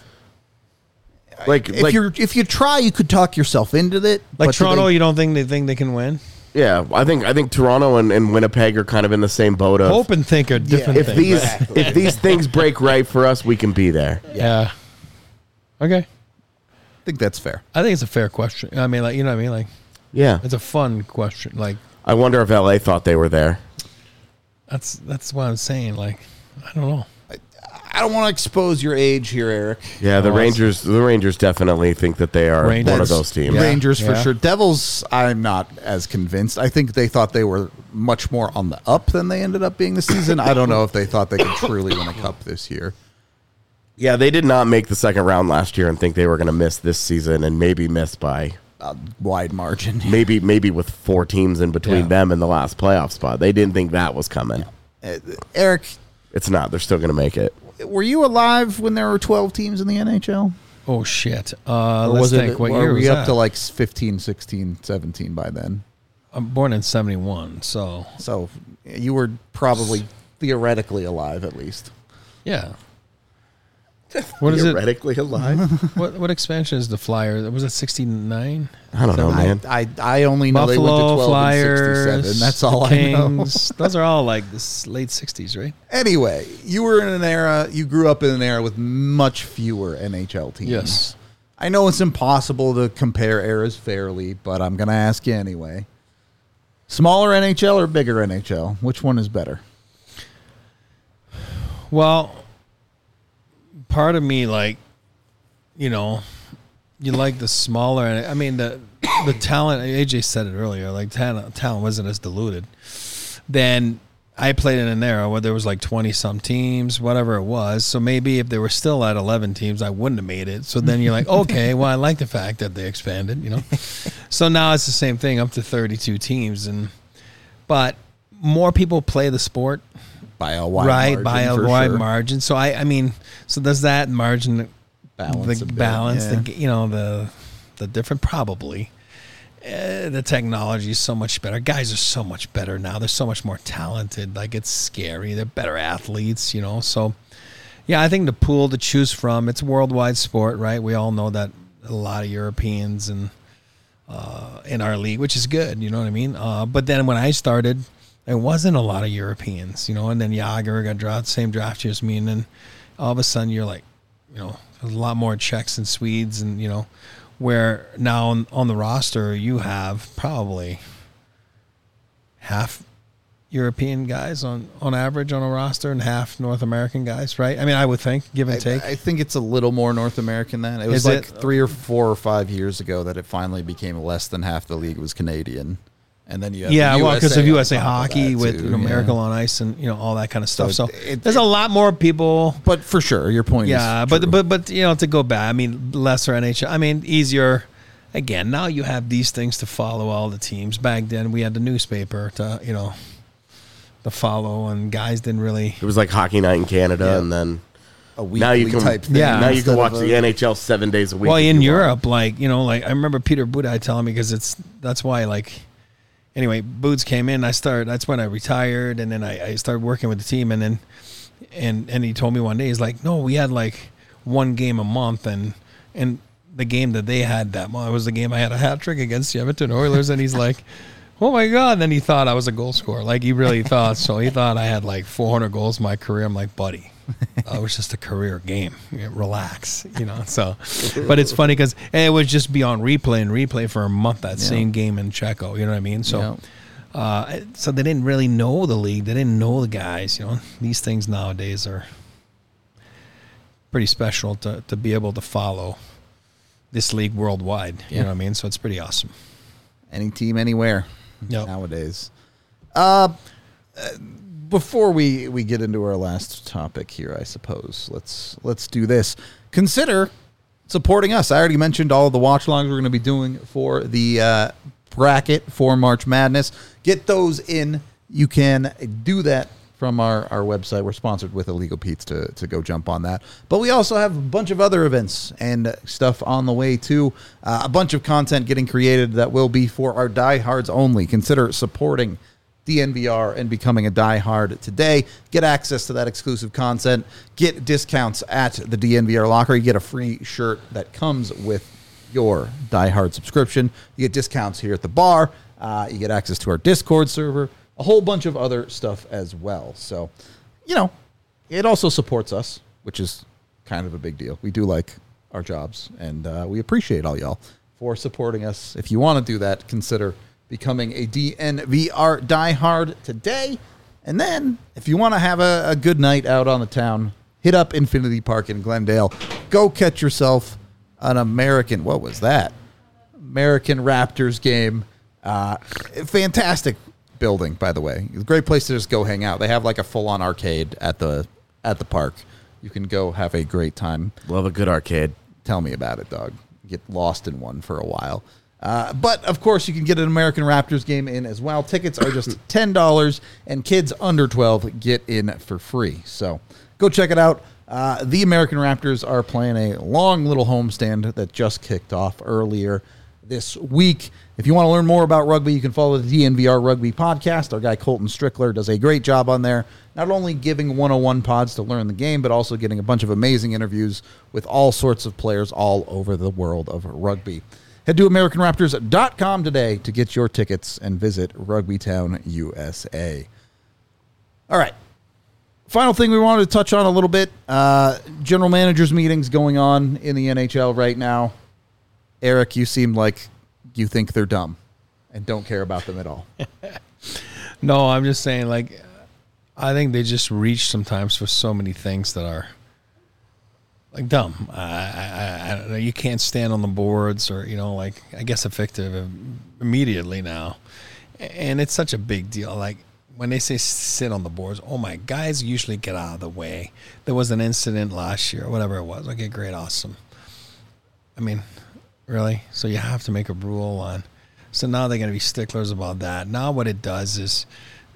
if you try, you could talk yourself into it. Like Toronto, you don't think they can win? Yeah, I think Toronto and Winnipeg are kind of in the same boat of hope and think are different things. If these things break right for us, we can be there. Yeah. Okay. I think that's fair. I think it's a fair question. I mean, like, you know what I mean? Like, yeah, it's a fun question. Like, I wonder if LA thought they were there. That's what I'm saying. Like, I don't know. I don't want to expose your age here, Eric. Yeah, the Rangers definitely think that they are one of those teams. Yeah. Rangers for sure. Devils, I'm not as convinced. I think they thought they were much more on the up than they ended up being this season. I don't know if they thought they could truly win a cup this year. Yeah, they did not make the second round last year and think they were going to miss this season and maybe miss by a wide margin. Maybe with 4 teams in between them and the last playoff spot. They didn't think that was coming. Eric, it's not. They're still going to make it. Were you alive when there were 12 teams in the NHL? Oh, shit. Let's think. What year were was we that? up to like 15, 16, 17 by then? I'm born in 71, so you were probably theoretically alive at least. Yeah. What is it? Theoretically alive? What expansion is the Flyer? Was it 69? I don't know, man. I only know Buffalo, they went to 12 Flyers, and 67. That's all Kings. I know. Those are all like this late 60s, right? Anyway, you grew up in an era with much fewer NHL teams. Yes. I know it's impossible to compare eras fairly, but I'm going to ask you anyway. Smaller NHL or bigger NHL? Which one is better? Well, part of me, like, you know, you like the smaller. I mean, the talent. AJ said it earlier. Like talent wasn't as diluted. Then I played in an era where there was like 20-some teams, whatever it was. So maybe if they were still at 11 teams, I wouldn't have made it. So then you're like, okay, well, I like the fact that they expanded. You know. So now it's the same thing, up to 32 teams, but more people play the sport. By a wide margin, margin. So I mean, so does that margin balance the different? Probably. The technology is so much better. Guys are so much better now. They're so much more talented. Like, it's scary. They're better athletes, you know. So yeah, I think the pool to choose from. It's a worldwide sport, right? We all know that a lot of Europeans and in our league, which is good. You know what I mean? But then when I started, there wasn't a lot of Europeans, you know, and then Yager got same draft year as me, and then all of a sudden you're like, you know, there's a lot more Czechs and Swedes, and, you know, where now on the roster you have probably half European guys on average on a roster and half North American guys, right? I mean, I would think, give and take. I think it's a little more North American than it was. 3 or 4 or 5 years ago that it finally became less than half the league was Canadian. And then you have well, because of on USA top of Hockey that, with too. Miracle on Ice and all that kind of stuff. So it- there's a lot more people. But for sure, your point Yeah, is true. but to go back, I mean, lesser NHL. I mean, easier. Again, now you have these things to follow all the teams. Back then, we had the newspaper to follow, and guys didn't really. It was like Hockey Night in Canada, Yeah. and then a weekly now you can type thing. Yeah. now you instead can watch of the NHL 7 days a week. Well, if in you want. Europe, like I remember Peter Budaj telling me because that's why anyway, Boots came in. That's when I retired, and then I started working with the team, and then and he told me one day, he's like, no, we had like one game a month, and the game that they had that month was the game I had a hat trick against the Edmonton Oilers, and he's like, oh my God. And then he thought I was a goal scorer. Like he really thought so. He thought I had like 400 goals in my career. I'm like, buddy, it was just a career game. Relax, So, but it's funny because it would just be on replay for a month. That same game in Czechia, you know what I mean? So, so they didn't really know the league. They didn't know the guys. These things nowadays are pretty special to be able to follow this league worldwide. You know what I mean? So it's pretty awesome. Any team, anywhere Yep. nowadays. Before we get into our last topic here, I suppose let's do this. Consider supporting us. I already mentioned all of the watch longs we're going to be doing for the bracket for March Madness. Get those in. You can do that from our website. We're sponsored with Illegal Pete's to go jump on that. But we also have a bunch of other events and stuff on the way too. A bunch of content getting created that will be for our diehards only. Consider supporting DNVR and becoming a diehard today. Get access to that exclusive content. Get discounts at the DNVR locker. You get a free shirt that comes with your diehard subscription. You get discounts here at the bar. You get access to our Discord server. A whole bunch of other stuff as well. So, it also supports us, which is kind of a big deal. We do like our jobs, and we appreciate all y'all for supporting us. If you want to do that, consider becoming a DNVR diehard today. And then, if you want to have a good night out on the town, hit up Infinity Park in Glendale. Go catch yourself an American Raptors game. Fantastic building, by the way. Great place to just go hang out. They have like a full-on arcade at the park. You can go have a great time. Love a good arcade. Tell me about it, dog. Get lost in one for a while. But, of course, you can get an American Raptors game in as well. Tickets are just $10, and kids under 12 get in for free. So go check it out. The American Raptors are playing a long little homestand that just kicked off earlier this week. If you want to learn more about rugby, you can follow the DNVR Rugby Podcast. Our guy Colton Strickler does a great job on there, not only giving 101 pods to learn the game, but also getting a bunch of amazing interviews with all sorts of players all over the world of rugby. Head to AmericanRaptors.com today to get your tickets and visit Rugbytown, USA. All right. Final thing we wanted to touch on a little bit. General managers meetings going on in the NHL right now. Eric, you seem like you think they're dumb and don't care about them at all. No, I'm just saying, I think they just reach sometimes for so many things that are dumb. I don't know. You can't stand on the boards or, I guess effective immediately now. And it's such a big deal. When they say sit on the boards, oh my, guys usually get out of the way. There was an incident last year, whatever it was. Okay, great, awesome. I mean, really? So you have to make a rule on. So now they're going to be sticklers about that. Now what it does is,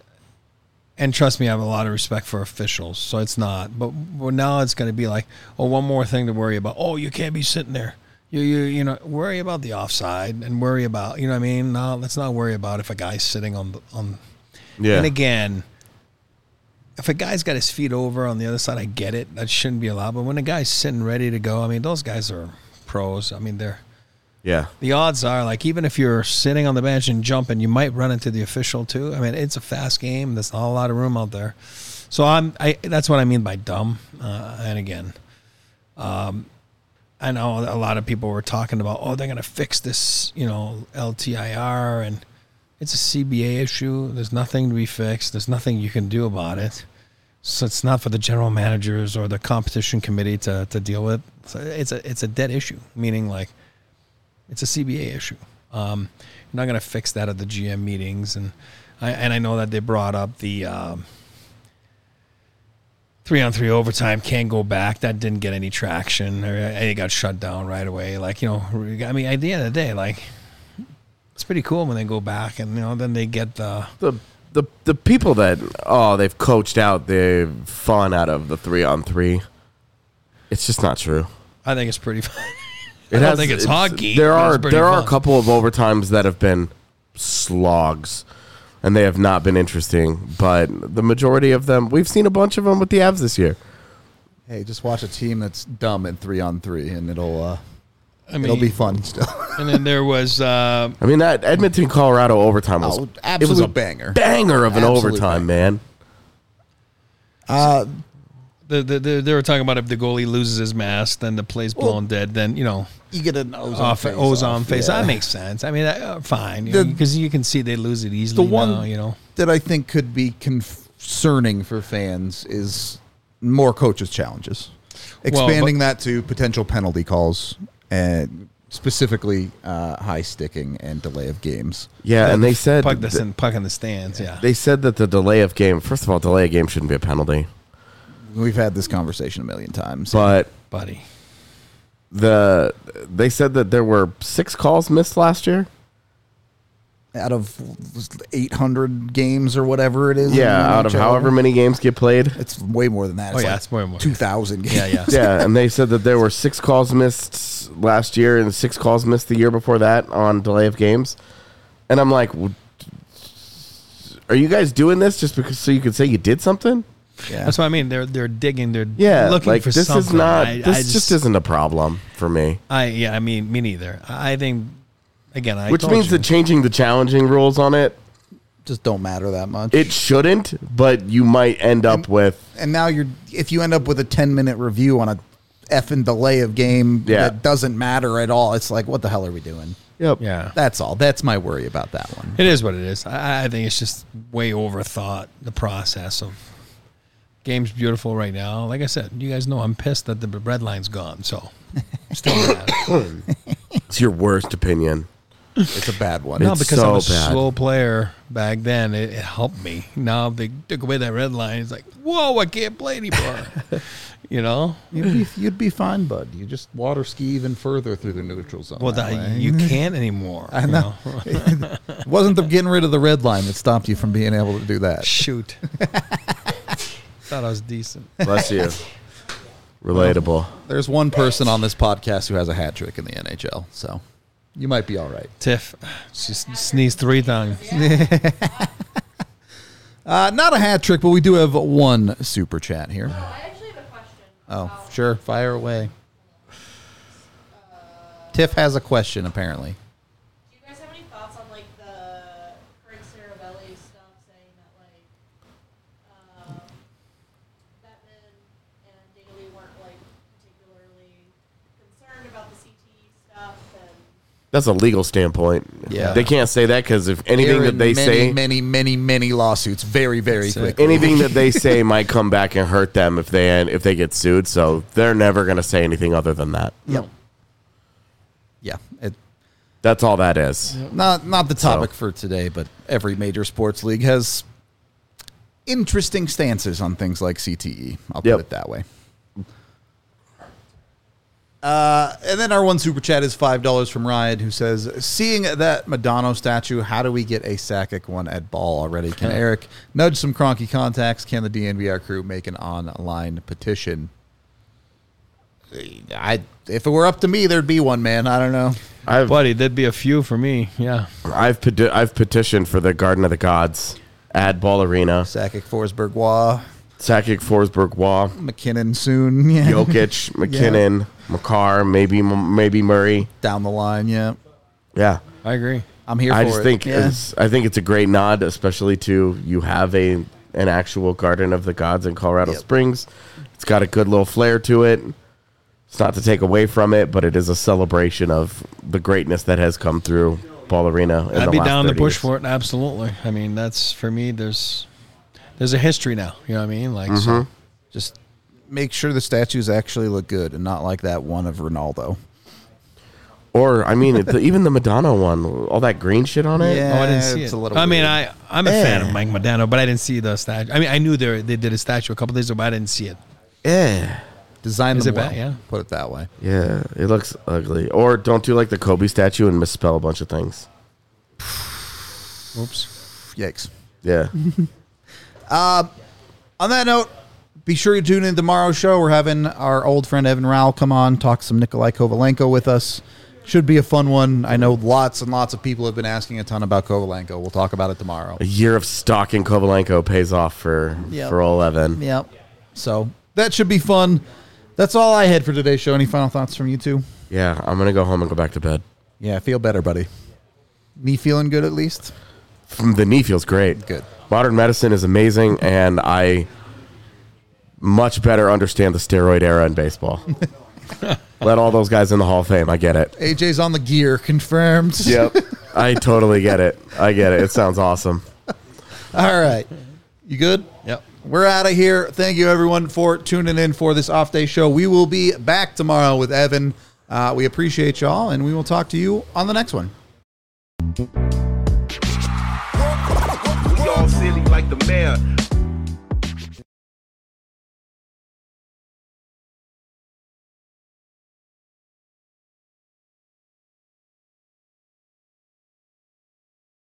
and trust me, I have a lot of respect for officials, so it's not. But now it's going to be one more thing to worry about. Oh, you can't be sitting there. You worry about the offside and worry about, what I mean? No, let's not worry about if a guy's sitting on. Yeah. And again, if a guy's got his feet over on the other side, I get it. That shouldn't be allowed. But when a guy's sitting ready to go, I mean, those guys are pros. I mean, the odds are, even if you're sitting on the bench and jumping, you might run into the official too. I mean, it's a fast game. There's not a lot of room out there. So that's what I mean by dumb. And again, I know a lot of people were talking about, they're going to fix this, LTIR, and it's a CBA issue. There's nothing to be fixed. There's nothing you can do about it. So it's not for the general managers or the competition committee to deal with. So it's a dead issue, meaning it's a CBA issue. You're not going to fix that at the GM meetings, and I know that they brought up the 3-on-3 overtime can't go back. That didn't get any traction. It got shut down right away. Like, you know, I mean, at the end of the day, like, it's pretty cool when they go back and, you know, then they get the people that they've coached out the fun out of the 3-on-3. It's just not true. I think it's pretty fun. I don't think it's hockey. There are fun. a couple of overtimes that have been slogs, and they have not been interesting. But the majority of them, we've seen a bunch of them with the Avs this year. Hey, just watch a team that's dumb in 3-on-3, and it'll be fun still. And then there was I mean, that Edmonton Colorado overtime was absolute it was a banger of an Absolute overtime, banger. man. they were talking about if the goalie loses his mask, then the play's blown dead. Then, you know, you get an ozone face. Yeah. That makes sense. I mean, fine, because you can see they lose it easily. The one now, you know, that I think could be concerning for fans is more coaches' challenges, expanding that to potential penalty calls and specifically high sticking and delay of games. Yeah, and they said puck in the stands. Yeah, they said that the delay of game. First of all, delay of game shouldn't be a penalty. We've had this conversation a million times, but buddy, they said that there were 6 calls missed last year out of 800 games or whatever it is. Yeah, out of however many games get played. It's way more than that. It's way more. 2,000 games. Yeah. Yeah, and they said that there were 6 calls missed last year and 6 calls missed the year before that on delay of games. And I'm like, are you guys doing this just because so you can say you did something? Yeah. That's what I mean. They're digging. They're looking for this something. Is not. This just isn't a problem for me. I mean, me neither. I think again, which means that changing the challenging rules on it just don't matter that much. It shouldn't, but you might end up with. And now if you end up with a 10-minute review on a effing delay of game that doesn't matter at all, it's like, what the hell are we doing? Yep. Yeah. That's all. That's my worry about that one. It is what it is. I think it's just way overthought, the process of. Game's beautiful right now. Like I said, you guys know I'm pissed that the red line's gone. So, still mad. It's your worst opinion. It's a bad one. No, It's because so I'm a bad. slow player back then. It helped me. Now they took away that red line. It's like, whoa, I can't play anymore. You know, you'd be fine, bud. You just water ski even further through the neutral zone. Well, you can't anymore. I know. It wasn't the getting rid of the red line that stopped you from being able to do that. Shoot. Thought I was decent. Bless you. Relatable. There's one person on this podcast who has a hat trick in the NHL, so you might be all right. Tiff, she sneezed 3 times. Not a hat trick, but we do have one super chat here. I actually have a question. Oh, sure. Fire away. Tiff has a question, apparently. Do you guys have any thoughts on like the Frank Cervelli stuff, saying that like Bettman and Daly weren't like particularly concerned about the CTE stuff, and That's a legal standpoint. Yeah. They can't say that because if anything They're that in they say, many lawsuits very, very That's it. quickly. anything that they say might come back and hurt them if they get sued. So they're never going to say anything other than that. Yep. Yeah. That's all that is. Not the topic for today, but every major sports league has interesting stances on things like CTE. I'll put it that way. And then our one super chat is $5 from Ryan, who says, seeing that Madonna statue, how do we get a Sakic one at Ball already? Can Eric nudge some Cronky contacts? Can the DNVR crew make an online petition? If it were up to me, there'd be one, man. I don't know. Buddy, there'd be a few for me. Yeah. I've petitioned for the Garden of the Gods at Ball Arena. Sakic, Forsberg, Waugh, Sakic, Forsberg, Waugh, McKinnon soon. Yeah. Jokic, McKinnon, Makar, maybe Murray. Down the line, yeah. Yeah. I agree. I'm here for I it. just think Yeah. I think it's a great nod, especially to you have an actual Garden of the Gods in Colorado Springs. It's got a good little flair to it. It's not to take away from it, but it is a celebration of the greatness that has come through Ball Arena. I'd be down to push for it. Absolutely. I mean, that's for me. There's a history now. You know what I mean? Like, so Just make sure the statues actually look good and not like that one of Ronaldo. Or I mean, even the Madonna one, all that green shit on it. Yeah. Oh, I didn't see It's it. a little I mean, weird. I'm a fan of Mike Modano, but I didn't see the statue. I mean, I knew they did a statue a couple days ago, but I didn't see it. Yeah. Design Is them it bad? well. Yeah. Put it that way. Yeah, it looks ugly. Or don't do like the Kobe statue and misspell a bunch of things. Oops. Yikes. Yeah. On that note, be sure you tune in tomorrow's show. We're having our old friend Evan Rowell come on, talk some Nikolai Kovalenko with us. Should be a fun one. I know lots and lots of people have been asking a ton about Kovalenko. We'll talk about it tomorrow. A year of stalking Kovalenko pays off for old Evan. Yep. So that should be fun. That's all I had for today's show. Any final thoughts from you two? Yeah, I'm gonna go home and go back to bed. Yeah, feel better, buddy. Knee feeling good at least? The knee feels great. Good. Modern medicine is amazing, and I much better understand the steroid era in baseball. Let all those guys in the Hall of Fame. I get it. AJ's on the gear, confirmed. Yep. I totally get it. I get it. It sounds awesome. All right. You good? Yep. We're out of here. Thank you, everyone, for tuning in for this off day show. We will be back tomorrow with Evan. We appreciate y'all, and we will talk to you on the next one. We all silly like the mayor.